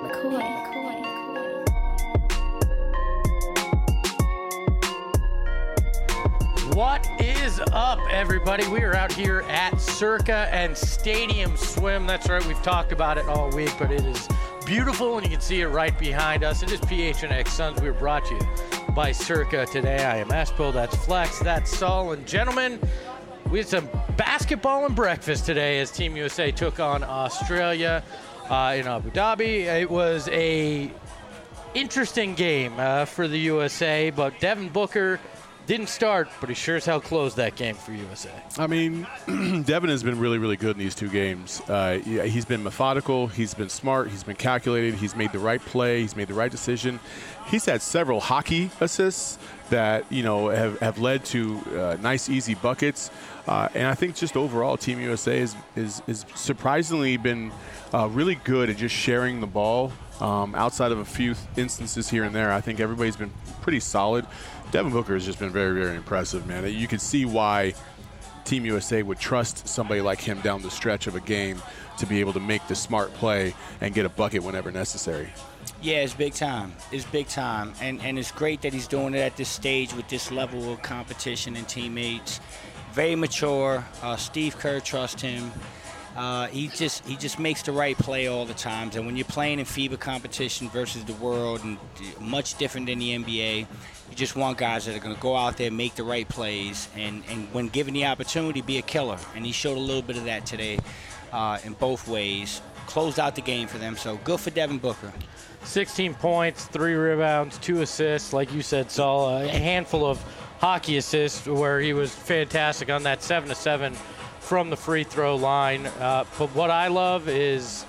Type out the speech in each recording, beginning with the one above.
What is up, everybody? We are out here at Circa and Stadium Swim. That's right, we've talked about it all week, but it is beautiful, and you can see it right behind us. It is PHNX Suns. We are brought to you by Circa today. I am Espo, that's Flex, that's Saul, and gentlemen, we had some basketball and breakfast today as Team USA took on Australia in Abu Dhabi. It was a interesting game for the USA, but Devin Booker didn't start, but he sure as hell closed that game for USA. I mean, Devin has been really, really good in these two games. He's been methodical. He's been smart. He's been calculated. He's made the right play. He's made the right decision. He's had several hockey assists that, you know, have led to nice, easy buckets. And I think just overall, Team USA is surprisingly been really good at just sharing the ball. Outside of a few instances here and there, I think everybody's been pretty solid. Devin Booker has just been very, very impressive, man. You can see why Team USA would trust somebody like him down the stretch of a game to be able to make the smart play and get a bucket whenever necessary. Yeah, it's big time. It's big time. And it's great that he's doing it at this stage with this level of competition and teammates. Very mature. Steve Kerr trusts him. He just makes the right play all the times. And when you're playing in FIBA competition versus the world, and much different than the NBA, you just want guys that are going to go out there, make the right plays, and when given the opportunity, be a killer. And he showed a little bit of that today in both ways. Closed out the game for them, so good for Devin Booker. 16 points, 3 rebounds, 2 assists, like you said, Saul. A handful of hockey assists where he was fantastic on that 7-7 from the free throw line. But what I love is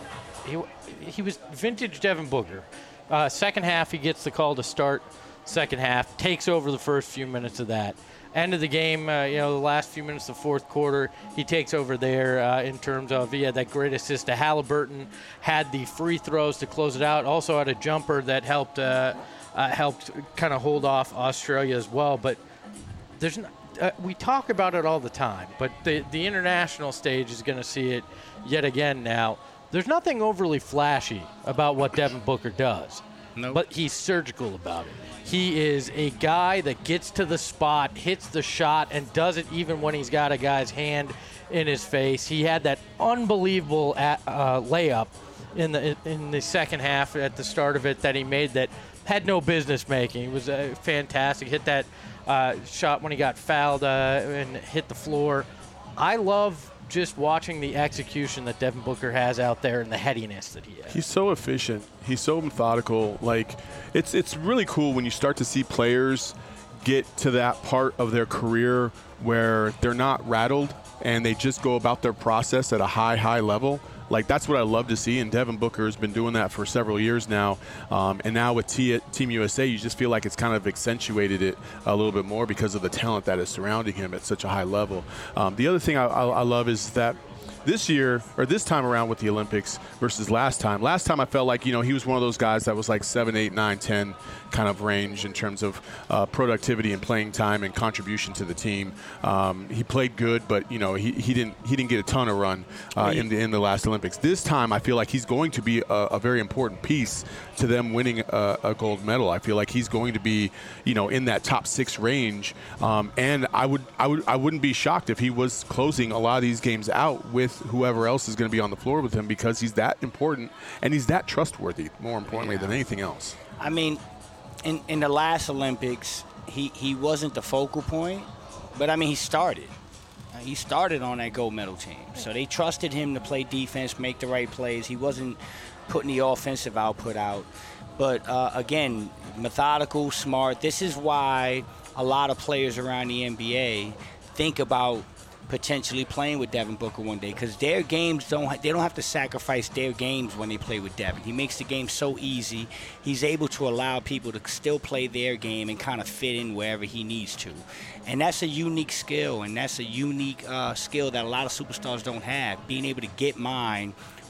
he was vintage Devin Booker. Second half, he gets the call to start second half, takes over the first few minutes of that. End of the game, the last few minutes of the fourth quarter, he takes over there in terms of, he had that great assist to Halliburton, had the free throws to close it out, also had a jumper that helped kind of hold off Australia as well. But there's we talk about it all the time, but the international stage is going to see it yet again now. There's nothing overly flashy about what Devin Booker does. Nope. But he's surgical about it. He is a guy that gets to the spot, hits the shot, and does it even when he's got a guy's hand in his face. He had that unbelievable layup in the second half at the start of it that he made that had no business making. It was fantastic. Hit that shot when he got fouled and hit the floor. I love just watching the execution that Devin Booker has out there and the headiness that he has. He's so efficient. He's so methodical. Like, it's really cool when you start to see players get to that part of their career where they're not rattled and they just go about their process at a high level. Like, that's what I love to see, and Devin Booker has been doing that for several years now. And now with Team USA, you just feel like it's kind of accentuated it a little bit more because of the talent that is surrounding him at such a high level. The other thing I love is that this year, or this time around with the Olympics versus last time I felt like, he was one of those guys that was like 7, 8, 9, 10 kind of range in terms of productivity and playing time and contribution to the team. He played good, but he didn't get a ton of run in the last Olympics. This time I feel like he's going to be a very important piece to them winning a gold medal. I feel like he's going to be in that top 6 range, and I wouldn't be shocked if he was closing a lot of these games out with whoever else is going to be on the floor with him, because he's that important and he's that trustworthy, more importantly than anything else. I mean, in the last Olympics, he wasn't the focal point, but I mean, he started. He started on that gold medal team. So they trusted him to play defense, make the right plays. He wasn't putting the offensive output out. But again, methodical, smart. This is why a lot of players around the NBA think about potentially playing with Devin Booker one day, because their games don't have to sacrifice their games when they play with Devin. He makes the game so easy. He's able to allow people to still play their game and kind of fit in wherever he needs to. And that's a unique skill, and that's a unique skill that a lot of superstars don't have, being able to get mine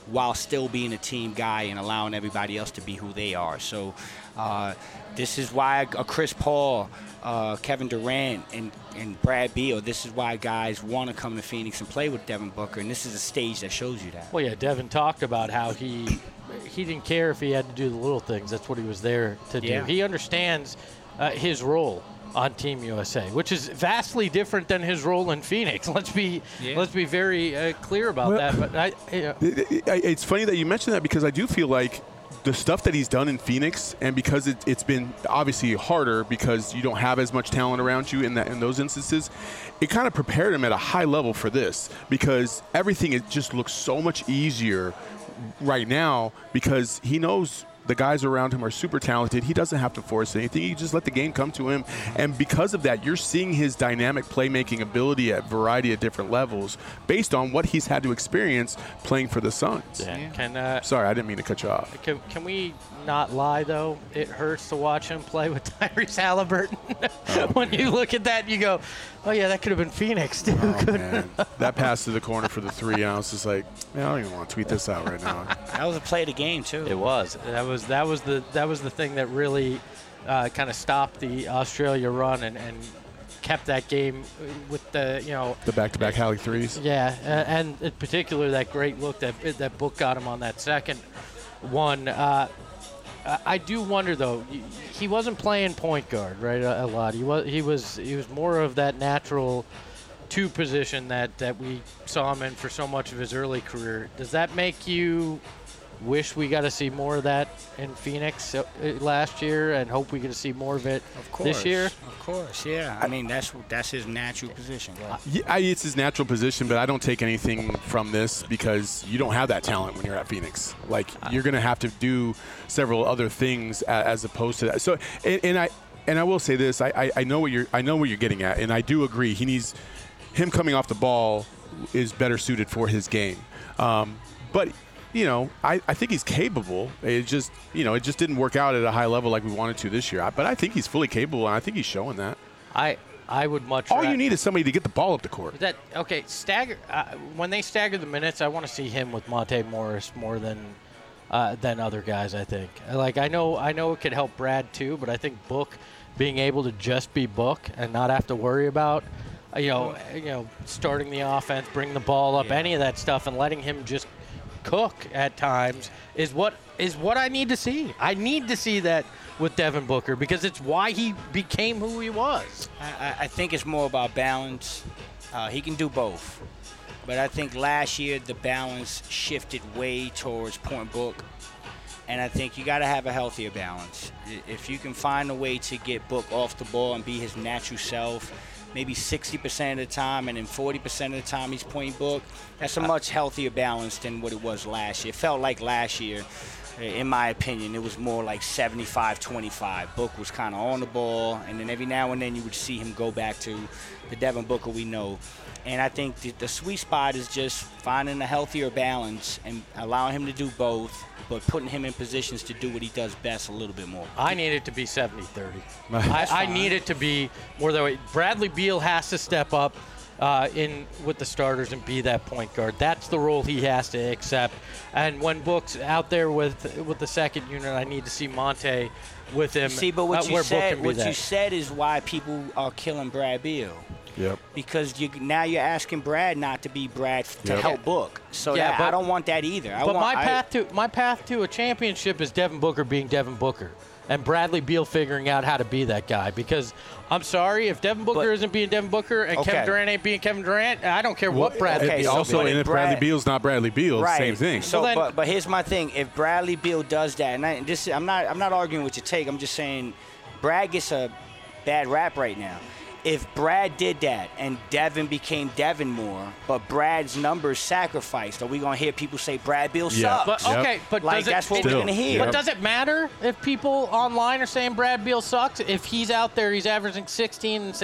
while still being a team guy and allowing everybody else to be who they are. So this is why a Chris Paul, Kevin Durant, and Brad Beal, this is why guys want to come to Phoenix and play with Devin Booker, and this is a stage that shows you that. Well, yeah, Devin talked about how he didn't care if he had to do the little things. That's what he was there to do. Yeah. He understands his role on Team USA, which is vastly different than his role in Phoenix. Let's be very clear about that. But it's funny that you mentioned that, because I do feel like the stuff that he's done in Phoenix, and because it's been obviously harder because you don't have as much talent around you in those instances, it kind of prepared him at a high level for this, because everything it just looks so much easier right now because he knows the guys around him are super talented. He doesn't have to force anything. He just let the game come to him. And because of that, you're seeing his dynamic playmaking ability at a variety of different levels based on what he's had to experience playing for the Suns. Yeah. Sorry, I didn't mean to cut you off. Can we not lie, though? It hurts to watch him play with Tyrese Halliburton. When you look at that, you go, oh, yeah, that could have been Phoenix, too. Oh, man. That pass to the corner for the three, and I was just like, man, I don't even want to tweet this out right now. That was a play of the game, too. It was. That was the thing that really kind of stopped the Australia run and kept that game with the back-to-back Halley threes. Yeah, and in particular that great look that Book got him on that second one. I do wonder, though, he wasn't playing point guard, right, a lot. He was more of that natural two position that we saw him in for so much of his early career. Does that make you wish we got to see more of that in Phoenix last year, and hope we get to see more of it this year? Of course, yeah. I mean, that's his natural position. Yeah, it's his natural position, but I don't take anything from this because you don't have that talent when you're at Phoenix. Like, you're going to have to do several other things as opposed to that. So, and I will say this: I know what you're getting at, and I do agree. Him coming off the ball is better suited for his game, but. I think he's capable. It just didn't work out at a high level like we wanted to this year. But I think he's fully capable, and I think he's showing that. I would much. All you need is somebody to get the ball up the court. Stagger. When they stagger the minutes, I want to see him with Monte Morris more than other guys. I think. Like I know it could help Brad too, but I think Book being able to just be Book and not have to worry about. Starting the offense, bringing the ball up, any of that stuff, and letting him just cook at times is what I need to see. I need to see that with Devin Booker because it's why he became who he was. I think it's more about balance. He can do both. But I think last year the balance shifted way towards point Book. And I think you got to have a healthier balance. If you can find a way to get Book off the ball and be his natural self, maybe 60% of the time, and then 40% of the time he's pointing Book. That's a much healthier balance than what it was last year. It felt like last year, in my opinion, it was more like 75-25. Book was kind of on the ball, and then every now and then you would see him go back to the Devin Booker we know. And I think the sweet spot is just finding a healthier balance and allowing him to do both, but putting him in positions to do what he does best a little bit more. I need it to be 70-30. I need it to be more that way. Bradley Beal has to step up in with the starters and be that point guard. That's the role he has to accept. And when Book's out there with the second unit, I need to see Monte with him. See, but what you said is why people are killing Brad Beal. Yep. Because now you're asking Brad not to be Brad to help Book. So I don't want that either. My path to a championship is Devin Booker being Devin Booker and Bradley Beal figuring out how to be that guy. Because I'm sorry, if Devin Booker isn't being Devin Booker and Kevin Durant ain't being Kevin Durant, I don't care what Bradley Beal. Also, and if Bradley Beal's not Bradley Beal, same thing. So, but here's my thing: if Bradley Beal does that, and I'm not arguing with your take. I'm just saying, Brad gets a bad rap right now. If Brad did that and Devin became Devin more, but Brad's numbers sacrificed, are we going to hear people say Brad Beal sucks? But that's what we're going to hear. But does it matter if people online are saying Brad Beal sucks? If he's out there, he's averaging 16 and say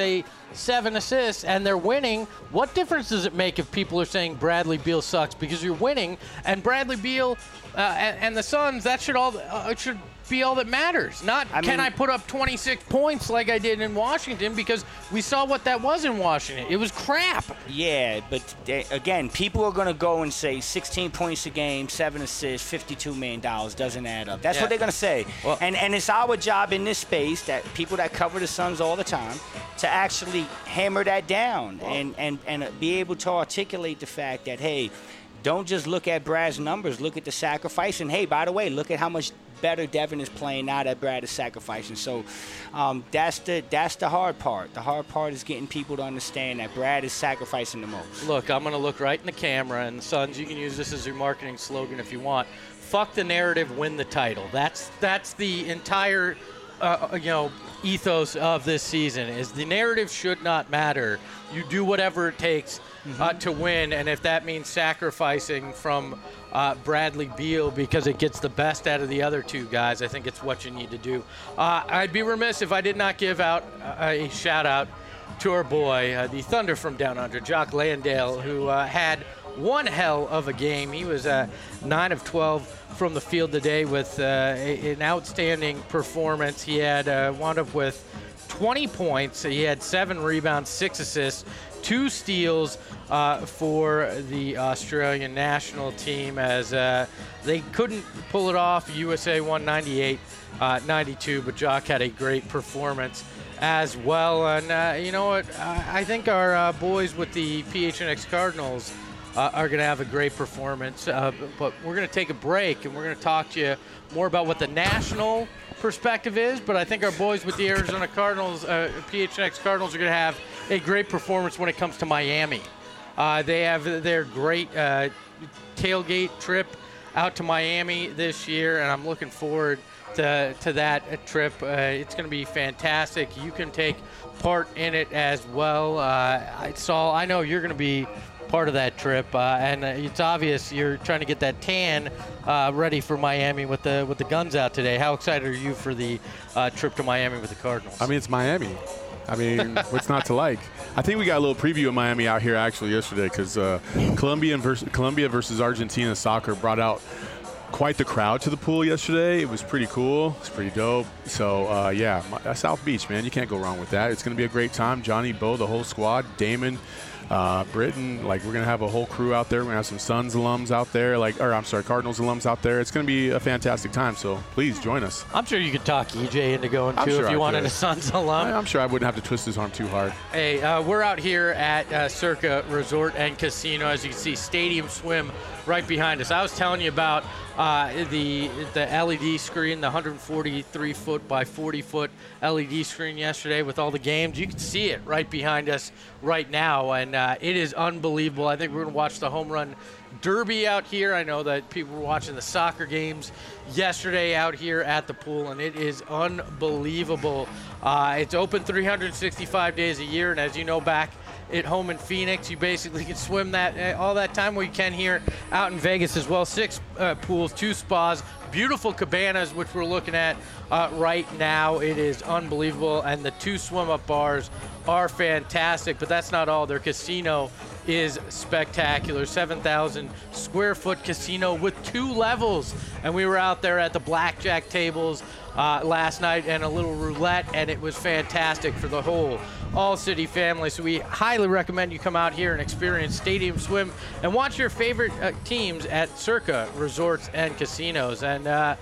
7 assists, and they're winning. What difference does it make if people are saying Bradley Beal sucks? Because you're winning, and Bradley Beal and the Suns, that should be all that matters. Not can I put up 26 points like I did in Washington, because we saw what that was in Washington. It was crap. Yeah, but again, people are going to go and say 16 points a game, 7 assists, $52 million doesn't add up. That's what they're going to say. Well, and it's our job in this space, that people that cover the Suns all the time, to actually hammer that down and be able to articulate the fact that, hey, don't just look at Brad's numbers, look at the sacrifice. And, hey, by the way, look at how much better Devin is playing now that Brad is sacrificing. So that's the hard part. The hard part is getting people to understand that Brad is sacrificing the most. Look, I'm going to look right in the camera, and Suns, you can use this as your marketing slogan if you want. Fuck the narrative, win the title. That's the entire ethos of this season. Is the narrative should not matter. You do whatever it takes to win, and if that means sacrificing from Bradley Beal because it gets the best out of the other two guys, I think it's what you need to do. I'd be remiss if I did not give out a shout-out to our boy, the Thunder from Down Under, Jock Landale, who had one hell of a game. He was 9 of 12 from the field today with an outstanding performance. He had wound up with 20 points. He had 7 rebounds, 6 assists, 2 steals for the Australian national team, as they couldn't pull it off. USA won 98-92, but Jock had a great performance as well. And you know what? I think our boys with the PHNX Cardinals are going to have a great performance. But we're going to take a break, and we're going to talk to you more about what the national perspective is. But I think our boys with the Arizona Cardinals, PHNX Cardinals, are going to have a great performance when it comes to Miami. They have their great tailgate trip out to Miami this year, and I'm looking forward to that trip. It's going to be fantastic. You can take part in it as well. Saul, I know you're going to be part of that trip, and it's obvious you're trying to get that tan ready for Miami with the guns out today. How excited are you for the trip to Miami with the Cardinals? I mean, it's Miami. I mean, what's not to like? I think we got a little preview of Miami out here actually yesterday, because Colombia versus Argentina soccer brought out quite the crowd to the pool yesterday. It was pretty cool. It's pretty dope. So, yeah, South Beach, man, you can't go wrong with that. It's going to be a great time. Johnny, Bo, the whole squad, Damon, Britton, like, we're going to have a whole crew out there. We're going to have some Suns alums out there, Cardinals alums out there. It's going to be a fantastic time, so please join us. I'm sure you could talk EJ into going, too, if you wanted a Suns alum. I'm sure I wouldn't have to twist his arm too hard. Hey, we're out here at Circa Resort and Casino. As you can see, Stadium Swim right behind us. I was telling you about the LED screen, the 143-foot by 40-foot LED screen yesterday with all the games. You can see it right behind us right now, and it is unbelievable. I think we're going to watch the home run derby out here. I know that people were watching the soccer games yesterday out here at the pool, and it is unbelievable. It's open 365 days a year, and as you know, back at home in Phoenix, you basically can swim that all that time. Where you can here out in Vegas as well. 6 pools, 2 spas, beautiful cabanas, which we're looking at right now. It is unbelievable, and the 2 swim-up bars are fantastic. But that's not all. Their casino is spectacular. 7,000 square foot casino with 2 levels, and we were out there at the blackjack tables last night and a little roulette, and it was fantastic for the whole all-city family. So we highly recommend you come out here and experience Stadium Swim and watch your favorite teams at Circa Resorts and Casinos. And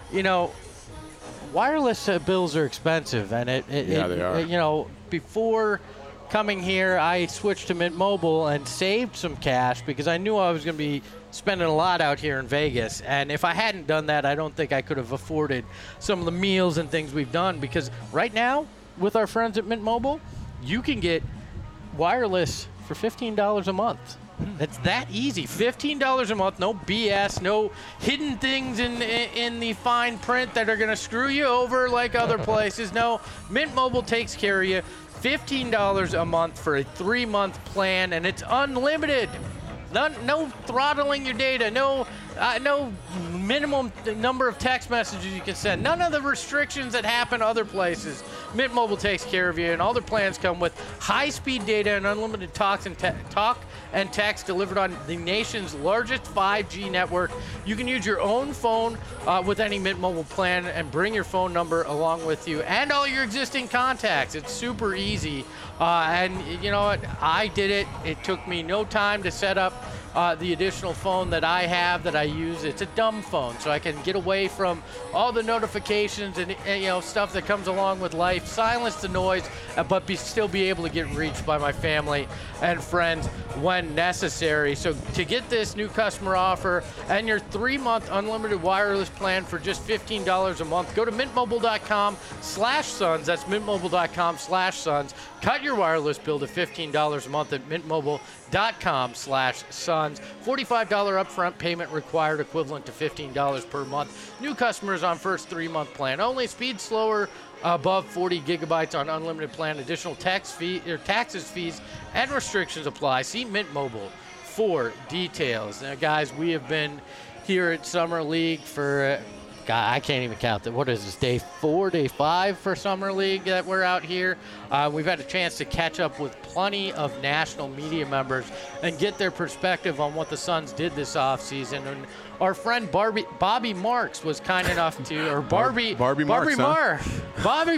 wireless bills are expensive, and they are. Before coming here, I switched to Mint Mobile and saved some cash because I knew I was going to be spending a lot out here in Vegas. And if I hadn't done that, I don't think I could have afforded some of the meals and things we've done, because right now, with our friends at Mint Mobile, you can get wireless for $15 a month. It's that easy. $15 a month, no BS, no hidden things in the fine print that are going to screw you over like other places. No, Mint Mobile takes care of you. $15 a month for a 3-month plan, and it's unlimited. No throttling your data, no no minimum number of text messages you can send. None of the restrictions that happen other places. Mint Mobile takes care of you, and all their plans come with high-speed data and unlimited talk and text delivered on the nation's largest 5G network. You can use your own phone with any Mint Mobile plan and bring your phone number along with you and all your existing contacts. It's super easy. And you know what? I did it. It took me no time to set up the additional phone that I have that I use. It's a dumb phone, so I can get away from all the notifications and stuff that comes along with life, silence the noise, but still be able to get reached by my family and friends when necessary. So to get this new customer offer and your 3-month unlimited wireless plan for just $15 a month, go to mintmobile.com/sons. That's mintmobile.com/sons. Cut your wireless bill to $15 a month at mintmobile.com/sons. $45 upfront payment required, equivalent to $15 per month. New customers on first 3-month plan only. Speed slower above 40 gigabytes on unlimited plan. Additional taxes, fees, and restrictions apply. See Mint Mobile for details. Now, guys, we have been here at Summer League for God, I can't even count that. What is this, day 4, day 5 for Summer League that we're out here? We've had a chance to catch up with plenty of national media members and get their perspective on what the Suns did this offseason. And our friend Bobby Marks was kind enough to, or Bobby Marks. Bobby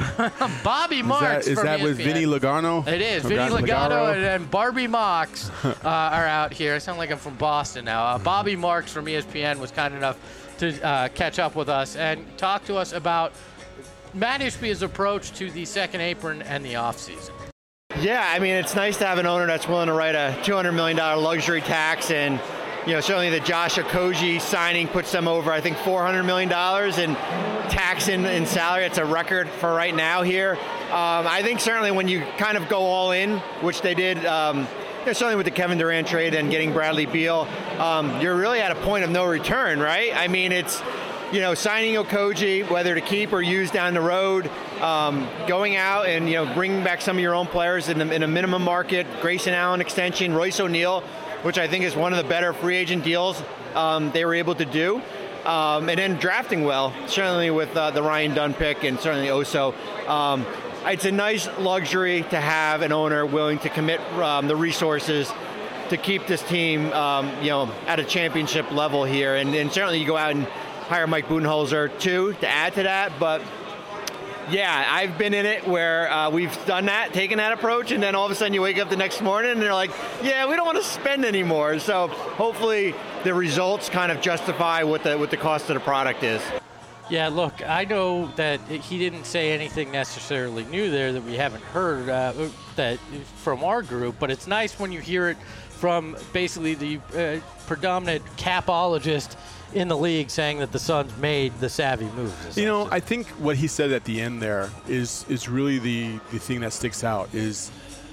Marks. Is that with Vinny Lugano? It is. Vinny Lugano and Barbie Marks are out here. I sound like I'm from Boston now. Bobby Marks from ESPN was kind enough to catch up with us and talk to us about Matt Ishbia's approach to the second apron and the offseason. Yeah, I mean, it's nice to have an owner that's willing to write a $200 million luxury tax, and certainly the Josh Okogie signing puts them over, I think, $400 million in tax in salary. It's a record for right now here. I think certainly when you kind of go all in, which they did, certainly with the Kevin Durant trade and getting Bradley Beal, you're really at a point of no return, right? I mean, it's, signing Okogie, whether to keep or use down the road, going out and, bringing back some of your own players in a minimum market, Grayson Allen extension, Royce O'Neal, which I think is one of the better free agent deals they were able to do. And then drafting well, certainly with the Ryan Dunn pick and certainly Oso. It's a nice luxury to have an owner willing to commit the resources to keep this team, at a championship level here. And certainly you go out and hire Mike Budenholzer too to add to that. But yeah, I've been in it where we've done that, taken that approach, and then all of a sudden you wake up the next morning and they're like, yeah, we don't want to spend anymore. So hopefully the results kind of justify what the cost of the product is. Yeah, look, I know that he didn't say anything necessarily new there that we haven't heard that from our group, but it's nice when you hear it from basically the predominant capologist in the league saying that the Suns made the savvy moves. I think what he said at the end there is really the thing that sticks out is,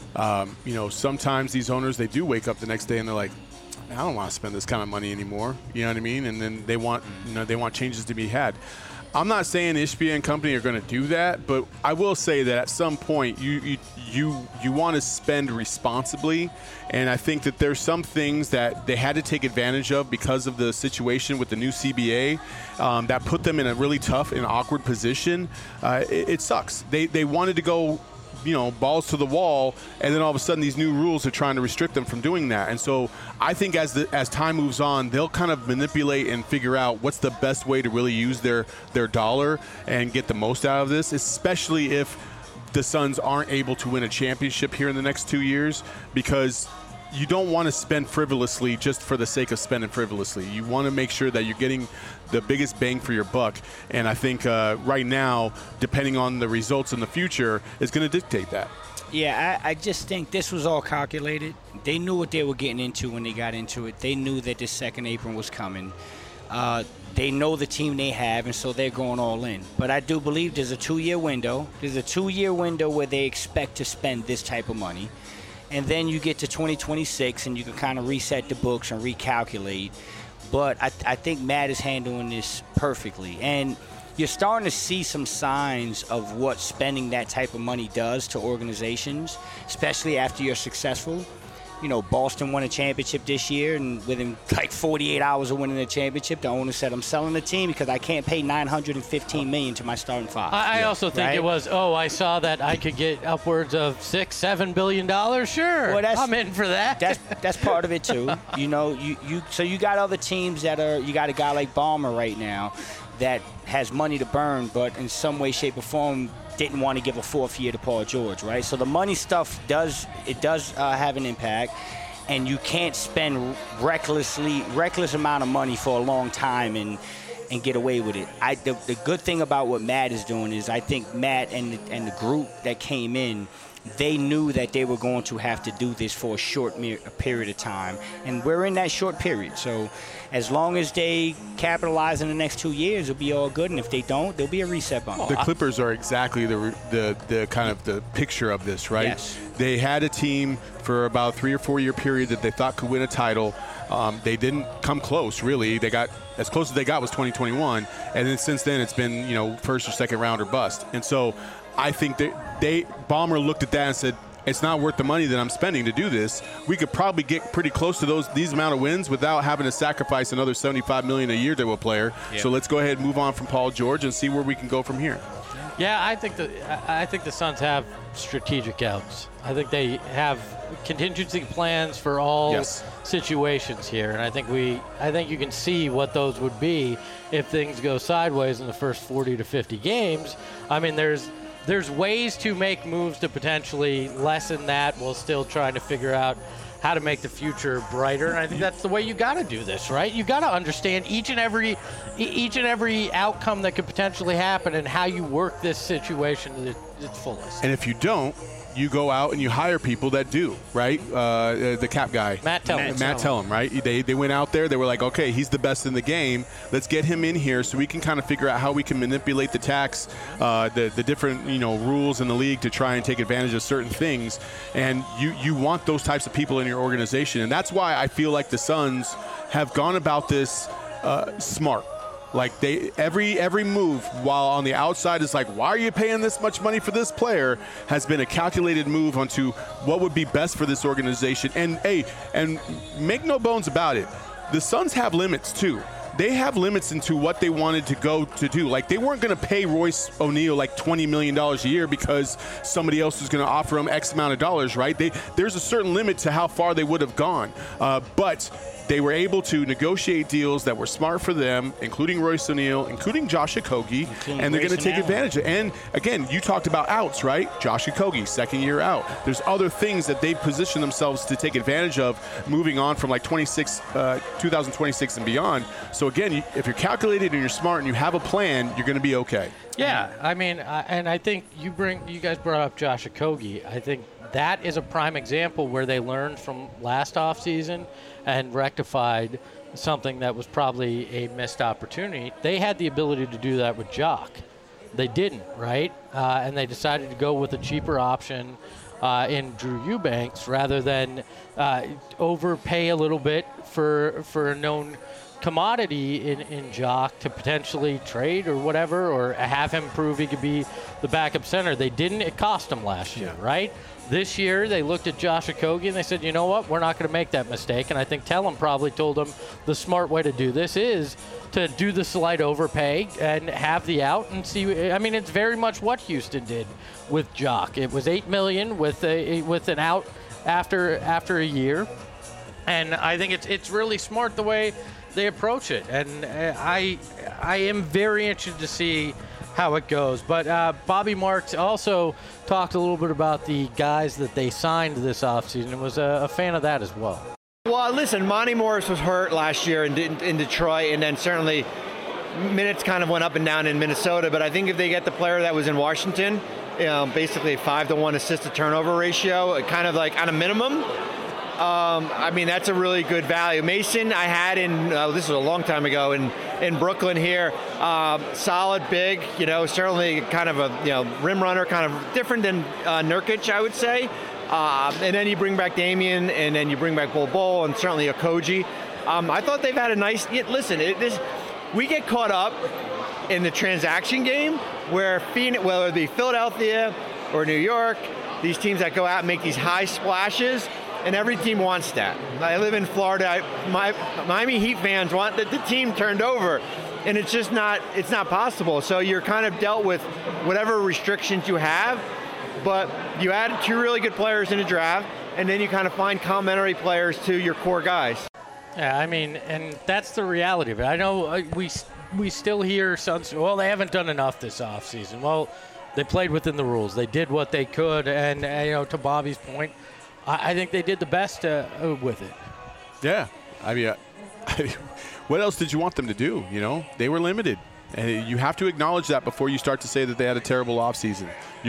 sometimes these owners, they do wake up the next day and they're like, I don't want to spend this kind of money anymore. You know what I mean? And then they want changes to be had. I'm not saying Ishbia and company are going to do that, but I will say that at some point you want to spend responsibly, and I think that there's some things that they had to take advantage of because of the situation with the new CBA that put them in a really tough and awkward position. It sucks. They wanted to go, balls to the wall, and then all of a sudden these new rules are trying to restrict them from doing that. And so I think as time moves on, they'll kind of manipulate and figure out what's the best way to really use their dollar and get the most out of this, especially if the Suns aren't able to win a championship here in the next 2 years, because you don't want to spend frivolously just for the sake of spending frivolously. You want to make sure that you're getting the biggest bang for your buck. And I think right now, depending on the results in the future, is going to dictate that. Yeah, I just think this was all calculated. They knew what they were getting into when they got into it. They knew that this second apron was coming. They know the team they have, and so they're going all in. But I do believe there's a 2-year window. There's a 2-year window where they expect to spend this type of money. And then you get to 2026, and you can kind of reset the books and recalculate. But I think Matt is handling this perfectly. And you're starting to see some signs of what spending that type of money does to organizations, especially after you're successful. Boston won a championship this year, and within like 48 hours of winning the championship, the owner said, I'm selling the team because I can't pay $915 million to my starting five. I also think it was, I saw that I could get upwards of $6-7 billion. Sure, well, I'm in for that. That's part of it too. So you got other teams that are. You got a guy like Ballmer right now that has money to burn, but in some way, shape, or form didn't want to give a fourth year to Paul George, right? So the money stuff does have an impact, and you can't spend reckless amount of money for a long time and get away with it. The good thing about what Matt is doing is I think Matt and the group that came in, they knew that they were going to have to do this for a short period of time, and we're in that short period. So as long as they capitalize in the next 2 years, it'll be all good, and if they don't, there'll be a reset bump. The Clippers are exactly the kind of the picture of this, right? Yes. They had a team for about a 3 or 4 year period that they thought could win a title. They didn't come close, really. They got as close as they got was 2021, and then since then it's been first or second round or bust. And so I think that Ballmer looked at that and said, it's not worth the money that I'm spending to do this. We could probably get pretty close to these amount of wins without having to sacrifice another $75 million a year to a player. Yeah. So let's go ahead and move on from Paul George and see where we can go from here. Yeah, I think the Suns have strategic outs. I think they have contingency plans for all situations here, and I think you can see what those would be if things go sideways in the first 40 to 50 games. I mean, there's ways to make moves to potentially lessen that while still trying to figure out how to make the future brighter. And I think that's the way you got to do this, right? You got to understand each and every outcome that could potentially happen and how you work this situation to its fullest. And if you don't, you go out and you hire people that do, right? The cap guy. Matt Tellem, right? They went out there. They were like, okay, he's the best in the game. Let's get him in here so we can kind of figure out how we can manipulate the tax, the different rules in the league to try and take advantage of certain things. And you want those types of people in your organization. And that's why I feel like the Suns have gone about this smart. Like every move, while on the outside is like, why are you paying this much money for this player, has been a calculated move onto what would be best for this organization. And and make no bones about it, the Suns have limits too. They have limits into what they wanted to go to do. Like, they weren't going to pay Royce O'Neal like $20 million a year because somebody else was going to offer him X amount of dollars, right? There's a certain limit to how far they would have gone. But they were able to negotiate deals that were smart for them, including Royce O'Neal, including Josh Okogie, and they're going to take advantage of it. And, again, you talked about outs, right? Josh Okogie, second year out. There's other things that they position themselves to take advantage of moving on from, like, 2026 and beyond. So, again, if you're calculated and you're smart and you have a plan, you're going to be okay. Yeah, I mean, and I think you guys brought up Josh Okogie. I think that is a prime example where they learned from last offseason and rectified something that was probably a missed opportunity. They had the ability to do that with Jock. They didn't, right? And they decided to go with a cheaper option in Drew Eubanks rather than overpay a little bit for a known commodity in Jock to potentially trade or whatever, or have him prove he could be the backup center. They didn't. It cost them last year, right? This year, they looked at Josh Okogie and they said, you know what, we're not going to make that mistake. And I think Tellem probably told them the smart way to do this is to do the slight overpay and have the out and see. I mean, it's very much what Houston did with Jock. It was $8 million with an out after a year. And I think it's really smart the way they approach it. And I am very interested to see how it goes. But Bobby Marks also talked a little bit about the guys that they signed this offseason and was a fan of that as well. Well, listen, Monty Morris was hurt last year in Detroit, and then certainly minutes kind of went up and down in Minnesota. But I think if they get the player that was in Washington, basically a 5-to-1 assist-to-turnover ratio, kind of like on a minimum, I mean, that's a really good value. Mason, I had this was a long time ago in Brooklyn here. Solid, big, certainly kind of a rim runner, kind of different than Nurkic, I would say. And then you bring back Damian, and then you bring back Bol and certainly Okogie. I thought they've had a nice. Listen, we get caught up in the transaction game whether it be Philadelphia or New York, these teams that go out and make these high splashes. and every team wants that. I live in Florida. My Miami Heat fans want the team turned over, and it's just not possible. So you're kind of dealt with whatever restrictions you have, but you add 2 really good players in a draft, and then you kind of find complementary players to your core guys. Yeah, I mean, and that's the reality of it. I know we still hear Suns, well, they haven't done enough this offseason. Well, they played within the rules. They did what they could, and to Bobby's point, I think they did the best with it. Yeah. I mean, what else did you want them to do? They were limited. And you have to acknowledge that before you start to say that they had a terrible offseason.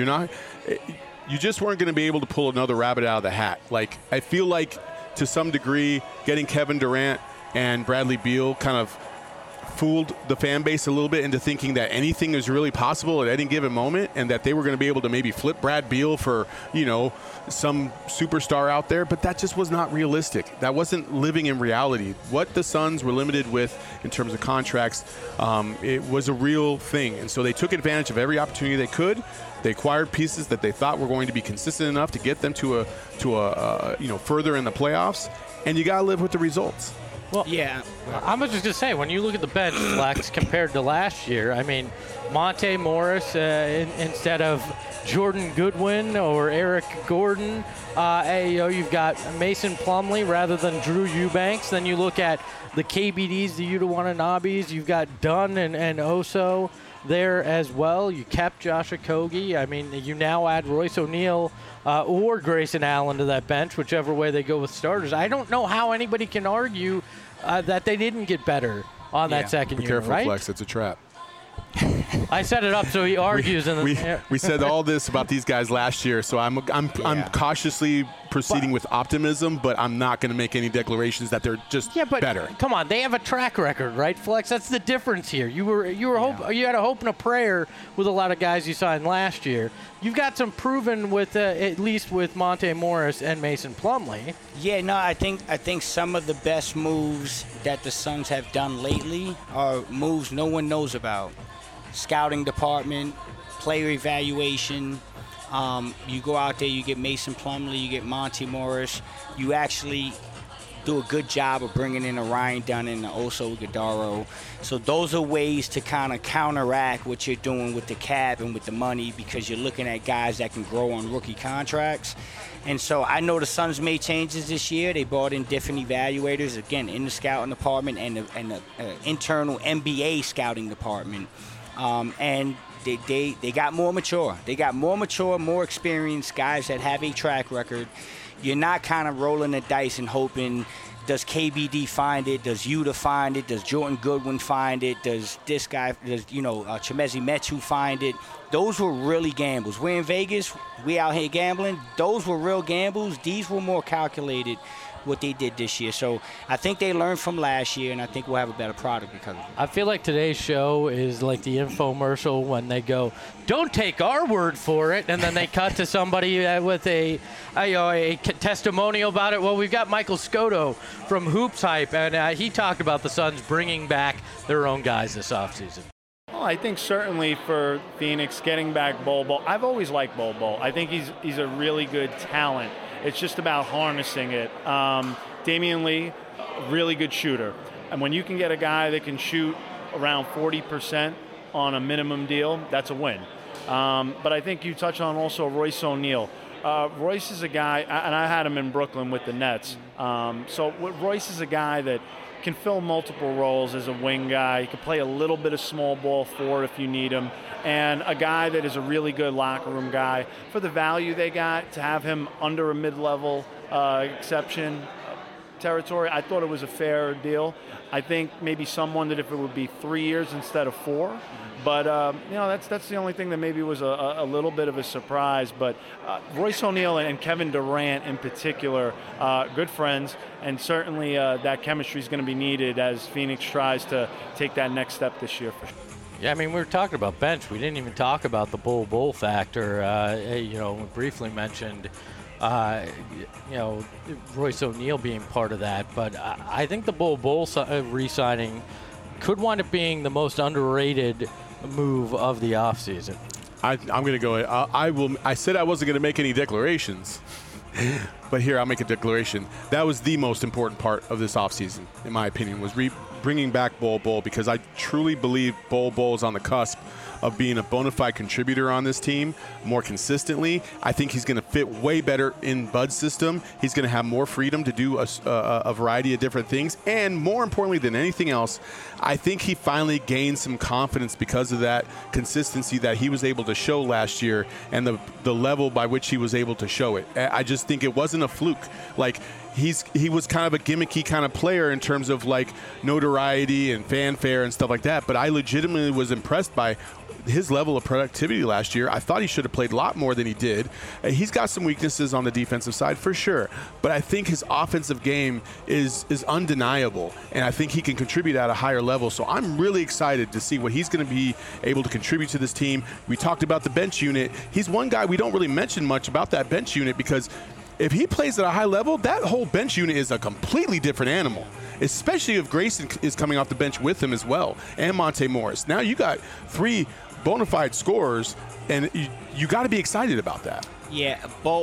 You just weren't going to be able to pull another rabbit out of the hat. Like, I feel like to some degree getting Kevin Durant and Bradley Beal kind of fooled the fan base a little bit into thinking that anything is really possible at any given moment, and that they were going to be able to maybe flip Brad Beal for, some superstar out there, but that just was not realistic. That wasn't living in reality. What the Suns were limited with in terms of contracts, it was a real thing, and so they took advantage of every opportunity they could. They acquired pieces that they thought were going to be consistent enough to get them to a further in the playoffs, and you got to live with the results. Well, yeah, I'm just going to say, when you look at the bench, Flex, compared to last year, I mean, Monte Morris instead of Jordan Goodwin or Eric Gordon, you've got Mason Plumlee rather than Drew Eubanks. Then you look at the KBDs, the Yuta Watanabes, you've got Dunn and Oso there as well. You kept Josh Okogie. I mean, you now add Royce O'Neal or Grayson Allen to that bench, whichever way they go with starters. I don't know how anybody can argue that they didn't get better on that second unit, careful, right? Flex. It's a trap. I set it up so he argues. We said all this about these guys last year, so I'm cautiously proceeding with optimism, but I'm not going to make any declarations that they're just better. Come on, they have a track record, right, Flex? That's the difference here. You had a hope and a prayer with a lot of guys you signed last year. You've got some proven with at least with Monte Morris and Mason Plumlee. Yeah, no, I think some of the best moves that the Suns have done lately are moves no one knows about. Scouting department, player evaluation. You go out there, you get Mason Plumlee, you get Monte Morris. You actually do a good job of bringing in a Ryan Dunn and Oso Ighodaro. So those are ways to kind of counteract what you're doing with the cap and with the money, because you're looking at guys that can grow on rookie contracts. And so I know the Suns made changes this year. They brought in different evaluators, again, in the scouting department and the internal NBA scouting department. And they got more mature. They got more mature, more experienced guys that have a track record. You're not kind of rolling the dice and hoping, does KBD find it? Does Yuta find it? Does Jordan Goodwin find it? Does this guy, Chimezie Metu find it? Those were really gambles. We're in Vegas. We out here gambling. Those were real gambles. These were more calculated, what they did this year. So I think they learned from last year, and I think we'll have a better product because of it. I feel like today's show is like the infomercial when they go, don't take our word for it, and then they cut to somebody with a testimonial about it. Well, we've got Michael Scotto from Hoops Hype, and he talked about the Suns bringing back their own guys this offseason. Well, I think certainly for Phoenix, getting back Bol Bol. I've always liked Bol Bol. I think he's a really good talent. It's just about harnessing it. Damian Lee, a really good shooter. And when you can get a guy that can shoot around 40% on a minimum deal, that's a win. But I think you touched on also Royce O'Neal. Royce is a guy, and I had him in Brooklyn with the Nets. So Royce is a guy that can fill multiple roles as a wing guy. He can play a little bit of small ball forward if you need him. And a guy that is a really good locker room guy. For the value they got, to have him under a mid-level exception territory, I thought it was a fair deal. I think maybe some wondered if it would be 3 years instead of 4. But, that's the only thing that maybe was a little bit of a surprise. But Royce O'Neal and Kevin Durant in particular, good friends. And certainly that chemistry is going to be needed as Phoenix tries to take that next step this year for sure. Yeah, I mean, we were talking about bench. We didn't even talk about the Bol Bol factor. We briefly mentioned, Royce O'Neal being part of that. But I think the Bol Bol re-signing could wind up being the most underrated move of the offseason. I'm going to go. I said I wasn't going to make any declarations, But here, I'll make a declaration. That was the most important part of this offseason, in my opinion, was bringing back Bol Bol, because I truly believe Bol Bol is on the cusp of being a bona fide contributor on this team more consistently. I think he's going to fit way better in Bud's system. He's going to have more freedom to do a variety of different things. And more importantly than anything else, I think he finally gained some confidence because of that consistency that he was able to show last year and the level by which he was able to show it. I just think it wasn't a fluke. Like, he was kind of a gimmicky kind of player in terms of like notoriety and fanfare and stuff like that. But I legitimately was impressed by his level of productivity last year. I thought he should have played a lot more than he did. He's got some weaknesses on the defensive side for sure, but I think his offensive game is undeniable, and I think he can contribute at a higher level. So I'm really excited to see what he's going to be able to contribute to this team. We talked about the bench unit. He's one guy we don't really mention much about that bench unit, because if he plays at a high level, that whole bench unit is a completely different animal, especially if Grayson is coming off the bench with him as well, and Monte Morris. Now you got 3 bona fide scorers, and you got to be excited about that. Yeah,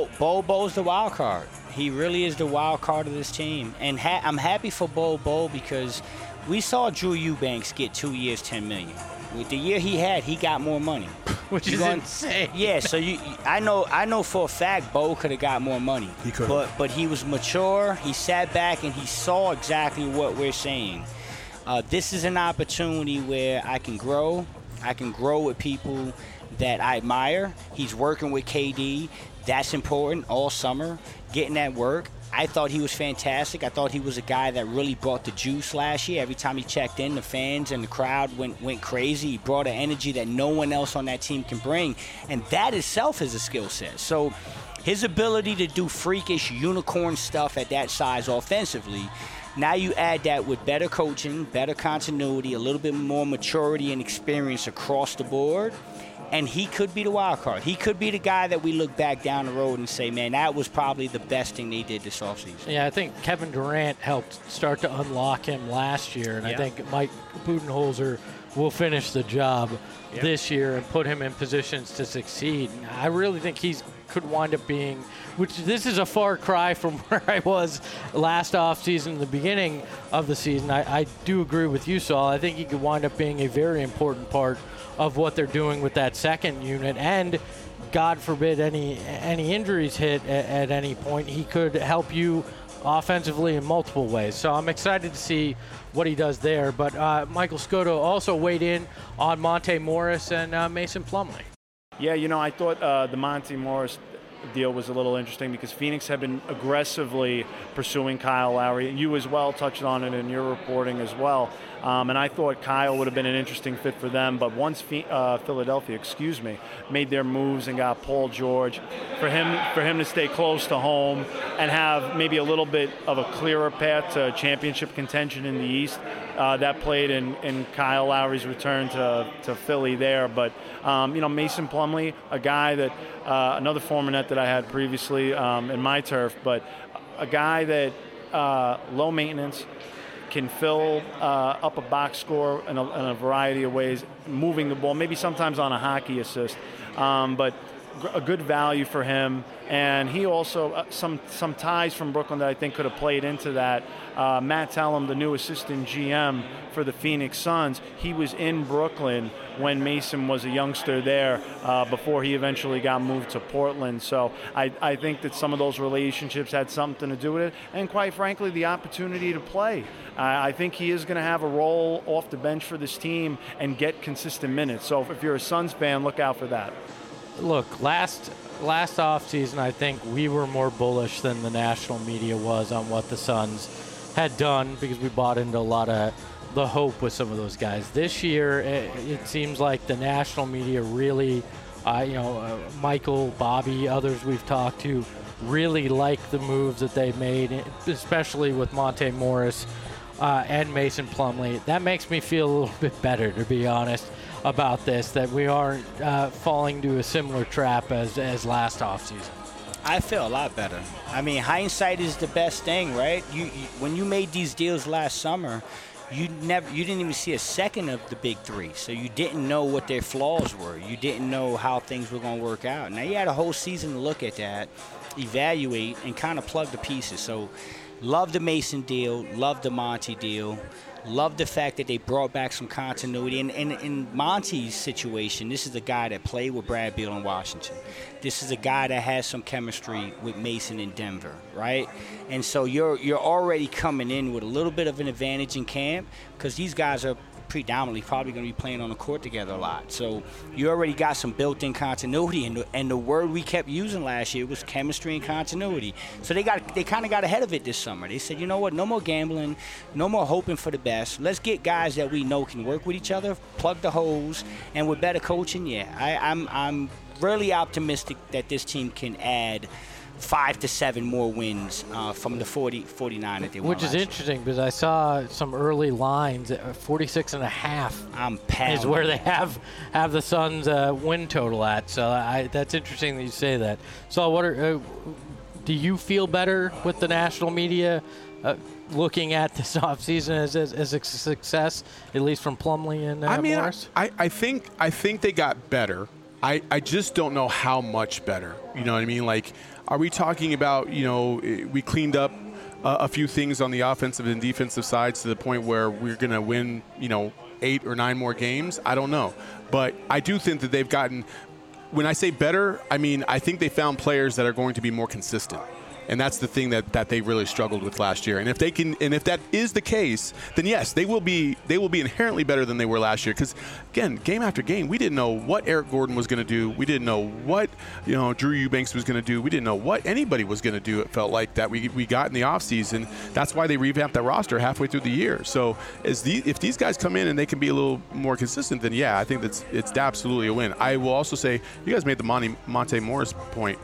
Bo's the wild card. He really is the wild card of this team. And I'm happy for Bo because we saw Drew Eubanks get 2 years, $10 million. With the year he had, he got more money. Which is insane. Yeah, so I know for a fact Bo could have got more money. He could. But he was mature. He sat back and he saw exactly what we're saying. This is an opportunity where I can grow. I can grow with people that I admire. He's working with KD. That's important all summer, getting that work. I thought he was fantastic. I thought he was a guy that really brought the juice last year. Every time he checked in, the fans and the crowd went crazy. He brought an energy that no one else on that team can bring, and that itself is a skill set. So his ability to do freakish unicorn stuff at that size offensively, now you add that with better coaching, better continuity, a little bit more maturity and experience across the board, and he could be the wild card. He could be the guy that we look back down the road and say, man, that was probably the best thing they did this offseason. Yeah, I think Kevin Durant helped start to unlock him last year, and I think Mike Budenholzer will finish the job this year and put him in positions to succeed. And I really think could wind up being, which this is a far cry from where I was last offseason, the beginning of the season. I do agree with you, Saul. I think he could wind up being a very important part of what they're doing with that second unit, and God forbid any injuries hit at any point, he could help you offensively in multiple ways. So I'm excited to see what he does there. But Michael Scotto also weighed in on Monte Morris and Mason Plumlee. Yeah, I thought the Monte Morris deal was a little interesting because Phoenix had been aggressively pursuing Kyle Lowry. You as well touched on it in your reporting as well. And I thought Kyle would have been an interesting fit for them. But once Philadelphia, made their moves and got Paul George, for him to stay close to home and have maybe a little bit of a clearer path to championship contention in the East, that played in Kyle Lowry's return to Philly there. But, Mason Plumlee, a guy that, another former net that I had previously in my turf, but a guy that low maintenance, can fill up a box score in a variety of ways, moving the ball, maybe sometimes on a hockey assist, but a good value for him. And he also, some ties from Brooklyn that I think could have played into that. Matt Tellem, the new assistant GM for the Phoenix Suns, he was in Brooklyn when Mason was a youngster there before he eventually got moved to Portland. So I think that some of those relationships had something to do with it. And quite frankly, the opportunity to play. I think he is going to have a role off the bench for this team and get consistent minutes. So if you're a Suns fan, look out for that. Look, last offseason, I think we were more bullish than the national media was on what the Suns had done because we bought into a lot of the hope with some of those guys. This year, it seems like the national media really, Michael, Bobby, others we've talked to, really like the moves that they made, especially with Monte Morris and Mason Plumlee. That makes me feel a little bit better, to be honest, about this, that we aren't falling to a similar trap as last offseason. I feel a lot better. I mean, hindsight is the best thing, right? You when you made these deals last summer, you didn't even see a second of the big three, so you didn't know what their flaws were. You didn't know how things were going to work out. Now you had a whole season to look at that, evaluate, and kind of plug the pieces. So love the Mason deal, love the Monty deal. Love the fact that they brought back some continuity. And in Monty's situation, this is the guy that played with Brad Beal in Washington. This is a guy that has some chemistry with Mason in Denver, right? And so you're already coming in with a little bit of an advantage in camp because these guys are predominantly probably going to be playing on the court together a lot. So you already got some built-in continuity, and the word we kept using last year was chemistry and continuity. So they kind of got ahead of it this summer. They said, you know what, no more gambling, no more hoping for the best. Let's get guys that we know can work with each other, plug the holes, and with better coaching, I'm really optimistic that this team can add 5 to 7 more wins from the 49 that they won. Which is interesting because I saw some early lines at 46.5 is where they have the Suns win total at. So that's interesting that you say that. So do you feel better with the national media looking at this offseason as a success, at least from Plumlee and Morris? I think they got better. I just don't know how much better. You know what I mean? Like, are we talking about, we cleaned up a few things on the offensive and defensive sides to the point where we're going to win, 8 or 9 more games? I don't know. But I do think that they've gotten, when I say better, I mean, I think they found players that are going to be more consistent. And that's the thing that they really struggled with last year. And if that is the case, then yes, they will be inherently better than they were last year. Because again, game after game, we didn't know what Eric Gordon was going to do. We didn't know what Drew Eubanks was going to do. We didn't know what anybody was going to do. It felt like that we got in the offseason. That's why they revamped that roster halfway through the year. So if these guys come in and they can be a little more consistent, then yeah, I think it's absolutely a win. I will also say, you guys made the Monte Morris point.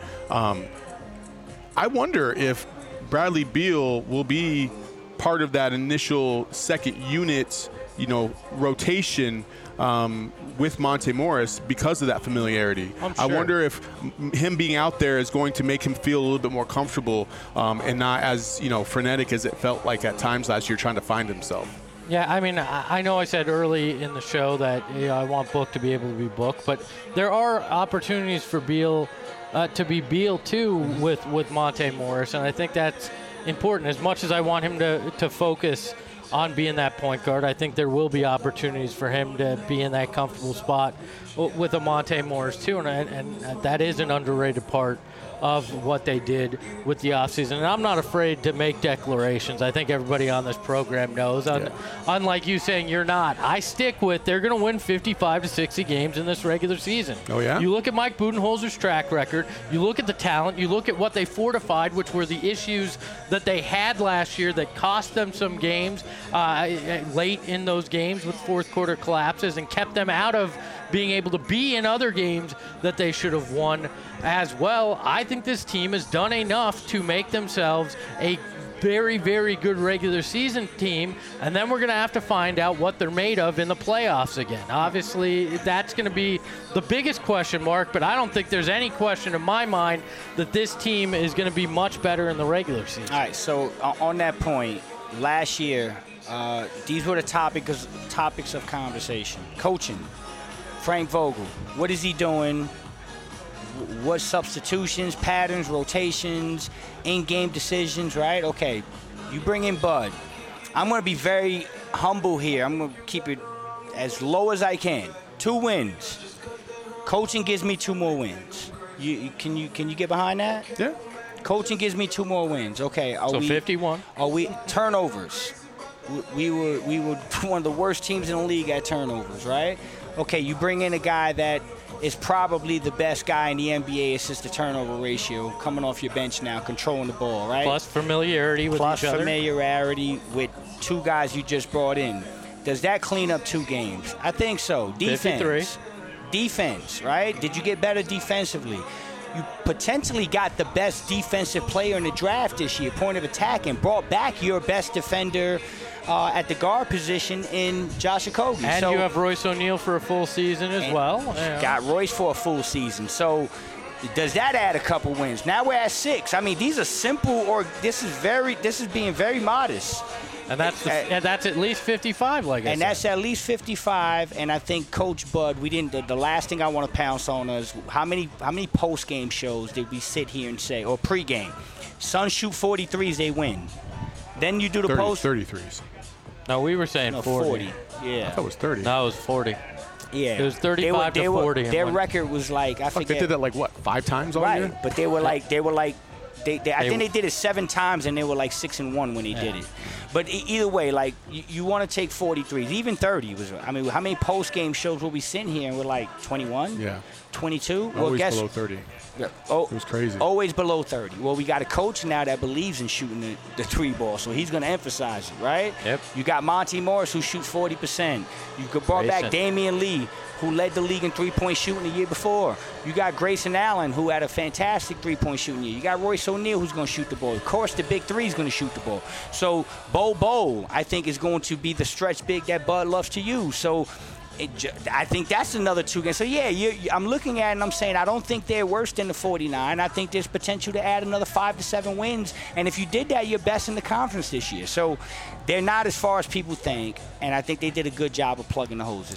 I wonder if Bradley Beal will be part of that initial second unit, rotation with Monte Morris because of that familiarity. Sure. I wonder if him being out there is going to make him feel a little bit more comfortable and not as frenetic as it felt like at times last year trying to find himself. Yeah, I mean, I know I said early in the show that I want Book to be able to be Book, but there are opportunities for Beal to be Beal too with Monte Morris, and I think that's important. As much as I want him to focus on being that point guard, I think there will be opportunities for him to be in that comfortable spot with a Monte Morris too, and that is an underrated part of what they did with the offseason. And I'm not afraid to make declarations. I think everybody on this program knows. Unlike you saying you're not, I stick with they're going to win 55 to 60 games in this regular season. Oh, yeah? You look at Mike Budenholzer's track record. You look at the talent. You look at what they fortified, which were the issues that they had last year that cost them some games late in those games with fourth quarter collapses and kept them out of being able to be in other games that they should have won as well. I think this team has done enough to make themselves a very, very good regular season team, and then we're going to have to find out what they're made of in the playoffs again. Obviously, that's going to be the biggest question mark, but I don't think there's any question in my mind that this team is going to be much better in the regular season. All right, so on that point, last year, these were the topics of conversation. Coaching. Frank Vogel, what is he doing? What substitutions, patterns, rotations, in-game decisions, right? Okay, you bring in Bud. I'm going to be very humble here. I'm going to keep it as low as I can. 2 wins. Coaching gives me 2 more wins. Can you get behind that? Yeah. Coaching gives me 2 more wins. Okay, so 51. Are we turnovers? We were one of the worst teams in the league at turnovers, right? Okay, you bring in a guy that is probably the best guy in the NBA assist-to-turnover ratio, coming off your bench now, controlling the ball, right? Plus familiarity with each other. Plus familiarity with 2 guys you just brought in. Does that clean up 2 games? I think so. Defense. 53. Defense, right? Did you get better defensively? You potentially got the best defensive player in the draft this year, point of attack, and brought back your best defender at the guard position in Josh Okogie. And you have Royce O'Neal for a full season as well. Yeah. Got Royce for a full season. So does that add a couple wins? Now we're at 6. I mean, these are simple, or this is being very modest. And that's at least 55, like I said. And that's at least 55. And I think Coach Bud, we didn't. The last thing I want to pounce on is how many post game shows did we sit here and say, or pregame, Suns shoot 43s, they win. Then you do the 33s. No, we were saying 40. Yeah. I thought it was 30. No, it was 40. Yeah. It was 35 to 40. Their record was like, I forget. They did that like what, 5 times all year? Right, but they were like, I think they did it 7 times, and they were like 6-1 when they did it. But either way, like you want to take 43s, even 30 was. I mean, how many post game shows will we sitting here and we're like 21? Yeah. 22? Always below 30. Oh, it was crazy. Always below 30. Well, we got a coach now that believes in shooting the 3 ball, so he's going to emphasize it, right? Yep. You got Monty Morris, who shoots 40%. You brought back Damian Lee, who led the league in three-point shooting the year before. You got Grayson Allen, who had a fantastic three-point shooting year. You got Royce O'Neal, who's going to shoot the ball. Of course, the big three is going to shoot the ball. So Bo, I think, is going to be the stretch big that Bud loves to use. So I think that's another 2 games. So, I'm looking at it and I'm saying I don't think they're worse than the 49. I think there's potential to add another 5 to 7 wins. And if you did that, you're best in the conference this year. So they're not as far as people think, and I think they did a good job of plugging the holes.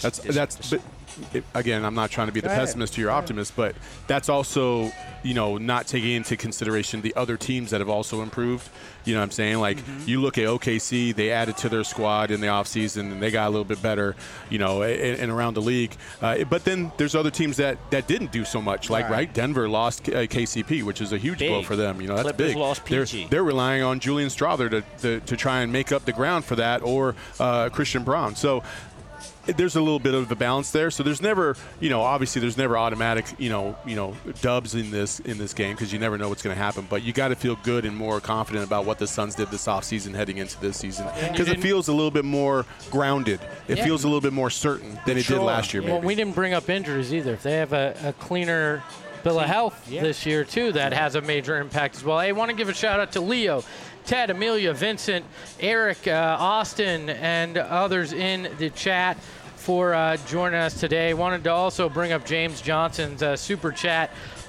Again, I'm not trying to be the pessimist to your optimist, but that's also, not taking into consideration the other teams that have also improved. You know what I'm saying? Like, you look at OKC, they added to their squad in the offseason, and they got a little bit better, and around the league. But then there's other teams that didn't do so much. Like, right? Denver lost KCP, which is a huge blow for them. That's Clippers big. Lost PG. They're relying on Julian Strawther to try and make up the ground for that, or Christian Braun. So there's a little bit of a balance there. So there's never, obviously there's never automatic, dubs in this game, because you never know what's going to happen. But you got to feel good and more confident about what the Suns did this offseason heading into this season, because it feels a little bit more grounded. It feels a little bit more certain than it did last year. Maybe. Well, we didn't bring up injuries either. If they have a cleaner bill of health this year too, that has a major impact as well. I want to give a shout out to Leo, Ted, Amelia, Vincent, Eric, Austin, and others in the chat for joining us today. Wanted to also bring up James Johnson's super chat.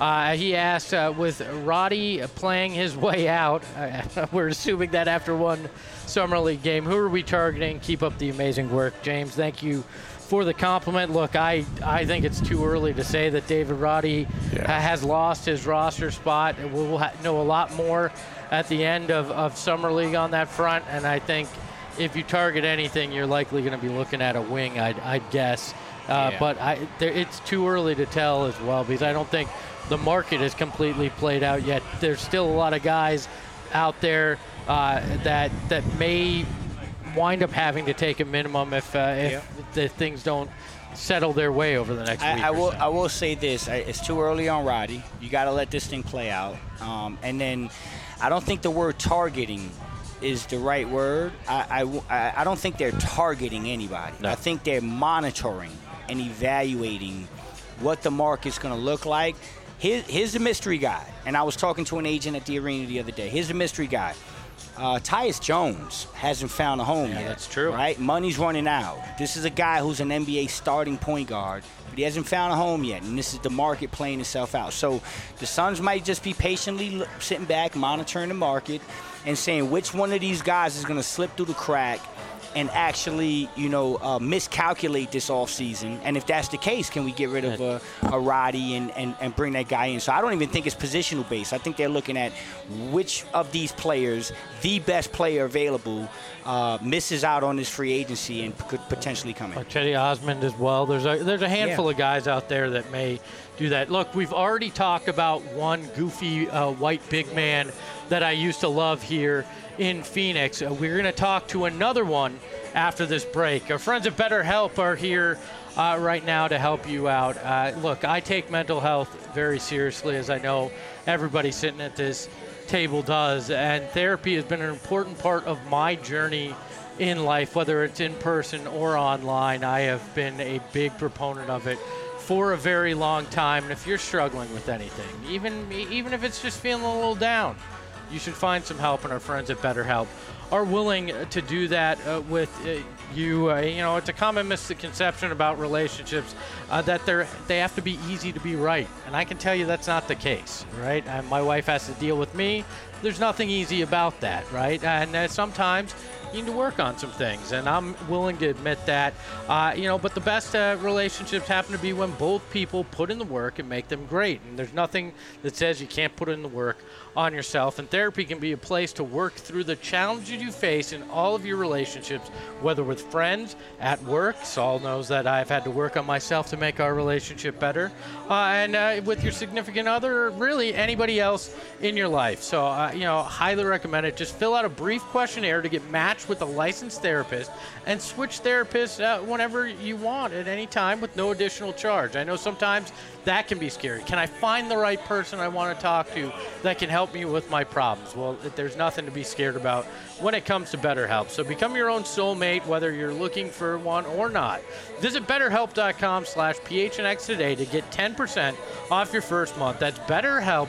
He asked, with Roddy playing his way out, we're assuming that after one Summer League game, who are we targeting? Keep up the amazing work. James, thank you for the compliment. Look, I think it's too early to say that David Roddy has lost his roster spot. We'll know a lot more at the end of Summer League on that front, and I think if you target anything, you're likely going to be looking at a wing, I'd guess. But it's too early to tell as well, because I don't think the market is completely played out yet. There's still a lot of guys out there that may wind up having to take a minimum if the things don't settle their way over the next week. I will say this. It's too early on Roddy. You got to let this thing play out. And then I don't think the word targeting is the right word. I don't think they're targeting anybody. No. I think they're monitoring and evaluating what the market's going to look like. Here's the mystery guy. And I was talking to an agent at the arena the other day. Here's the mystery guy. Tyus Jones hasn't found a home yet. That's true. Right? Money's running out. This is a guy who's an NBA starting point guard, but he hasn't found a home yet, and this is the market playing itself out. So the Suns might just be patiently sitting back, monitoring the market, and saying which one of these guys is going to slip through the crack and actually, miscalculate this offseason. And if that's the case, can we get rid of a Roddy and bring that guy in? So I don't even think it's positional based. I think they're looking at which of these players, the best player available, misses out on this free agency and could potentially come in. Cedi Osman as well. There's a handful of guys out there that may do that. Look, we've already talked about one goofy white big man that I used to love here in Phoenix. We're going to talk to another one after this break. Our friends at BetterHelp are here right now to help you out. Look, I take mental health very seriously, as I know everybody sitting at this table does, and therapy has been an important part of my journey in life, whether it's in person or online. I have been a big proponent of it for a very long time. And if you're struggling with anything, even if it's just feeling a little down, you should find some help, and our friends at BetterHelp are willing to do that with you. It's a common misconception about relationships that they have to be easy to be right, and I can tell you that's not the case, right? My wife has to deal with me. There's nothing easy about that, right? And sometimes you need to work on some things, and I'm willing to admit that. But the best relationships happen to be when both people put in the work and make them great. And there's nothing that says you can't put in the work on yourself. And therapy can be a place to work through the challenges you face in all of your relationships, whether with friends, at work. Saul knows that I've had to work on myself to make our relationship better, and with your significant other, or really anybody else in your life. So, highly recommend it. Just fill out a brief questionnaire to get matched with a licensed therapist and switch therapists whenever you want at any time with no additional charge. I know sometimes that can be scary. Can I find the right person I want to talk to that can help me with my problems? Well, there's nothing to be scared about when it comes to BetterHelp. So become your own soulmate, whether you're looking for one or not. Visit BetterHelp.com/PHNX today to get 10% off your first month. That's BetterHelp,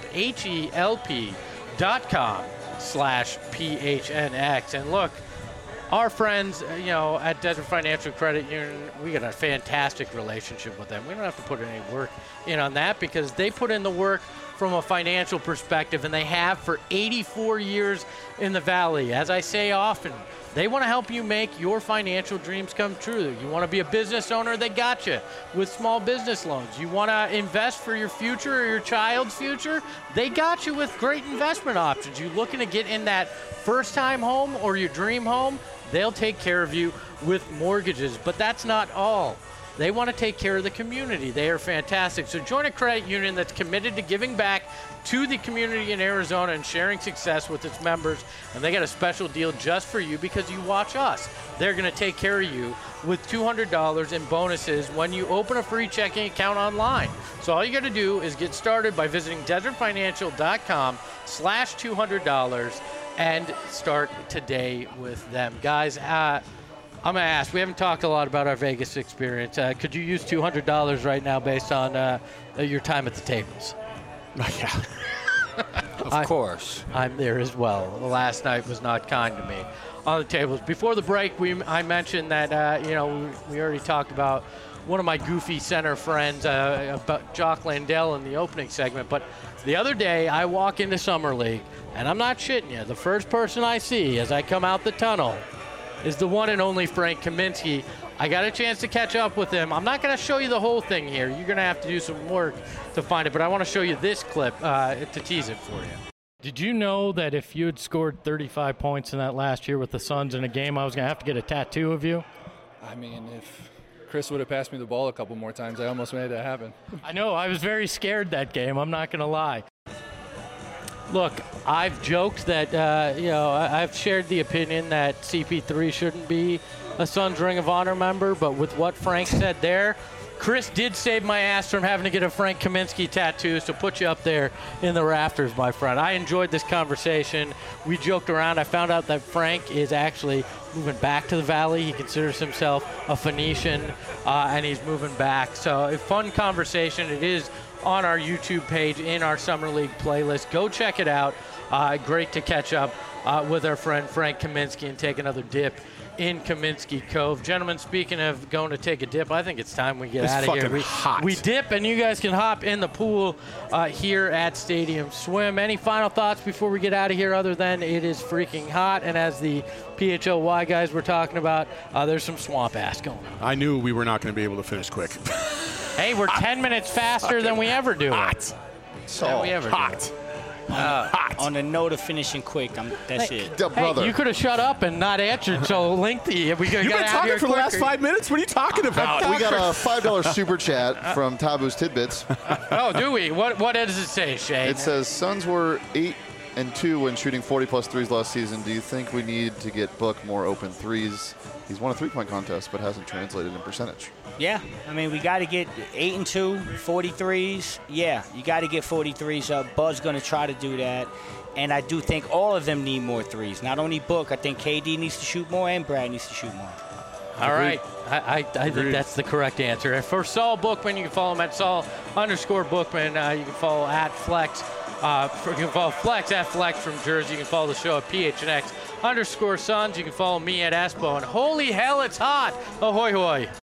HELP.com/PHNX. And look, our friends, at Desert Financial Credit Union, we got a fantastic relationship with them. We don't have to put any work in on that because they put in the work from a financial perspective, and they have for 84 years in the Valley. As I say often, they want to help you make your financial dreams come true. You want to be a business owner, they got you with small business loans. You want to invest for your future or your child's future, they got you with great investment options. You looking to get in that first-time home or your dream home, they'll take care of you with mortgages. But that's not all. They want to take care of the community. They are fantastic. So join a credit union that's committed to giving back to the community in Arizona and sharing success with its members. And they got a special deal just for you because you watch us. They're going to take care of you with $200 in bonuses when you open a free checking account online. So all you got to do is get started by visiting desertfinancial.com/$200 and start today with them. Guys, I'm going to ask, we haven't talked a lot about our Vegas experience. Could you use $200 right now based on your time at the tables? Yeah. Of course. I'm there as well. The last night was not kind to me on the tables. Before the break, I mentioned that, we already talked about one of my goofy center friends, about Jock Landell in the opening segment. But the other day, I walk into Summer League, and I'm not shitting you. The first person I see as I come out the tunnel is the one and only Frank Kaminsky. I got a chance to catch up with him. I'm not going to show you the whole thing here. You're going to have to do some work to find it, but I want to show you this clip to tease it for you. Did you know that if you had scored 35 points in that last year with the Suns in a game, I was going to have to get a tattoo of you? I mean, if Chris would have passed me the ball a couple more times, I almost made that happen. I know. I was very scared that game. I'm not going to lie. Look, I've joked that, I've shared the opinion that CP3 shouldn't be a Suns Ring of Honor member, but with what Frank said there, Chris did save my ass from having to get a Frank Kaminsky tattoo, so put you up there in the rafters, my friend. I enjoyed this conversation. We joked around. I found out that Frank is actually moving back to the Valley. He considers himself a Phoenician, and he's moving back. So a fun conversation. It is on our YouTube page in our Summer League playlist. Go check it out. Great to catch up with our friend Frank Kaminsky and take another dip in Kaminsky Cove. Gentlemen, speaking of going to take a dip, I think it's time we get out of here. We dip, and you guys can hop in the pool here at Stadium Swim. Any final thoughts before we get out of here other than it is freaking hot, and as the PHLY guys were talking about, there's some swamp ass going on. I knew we were not going to be able to finish quick. Hey, we're 10 minutes faster than we ever do. Hot. So hot. On the note of finishing quick, that's it. Hey, you could have shut up and not answered so lengthy. You've been talking for the last 5 minutes? What are you talking about? We got a $5 super chat from Tabu's Tidbits. Oh, do we? What does it say, Shane? It says, Suns were 8-2 when shooting 40-plus threes last season. Do you think we need to get Book more open threes? He's won a three-point contest, but hasn't translated in percentage. Yeah, I mean, we got to get 8-2, 43s. Yeah, you got to get 43s up. Bud's going to try to do that. And I do think all of them need more threes. Not only Book, I think KD needs to shoot more and Brad needs to shoot more. All right. I think that's the correct answer. For Saul Bookman, you can follow him at Saul_Bookman. You can follow at Flex. You can follow Flex at Flex from Jersey. You can follow the show at PHNX_Suns. You can follow me at Espo. And holy hell, it's hot. Ahoy, hoy.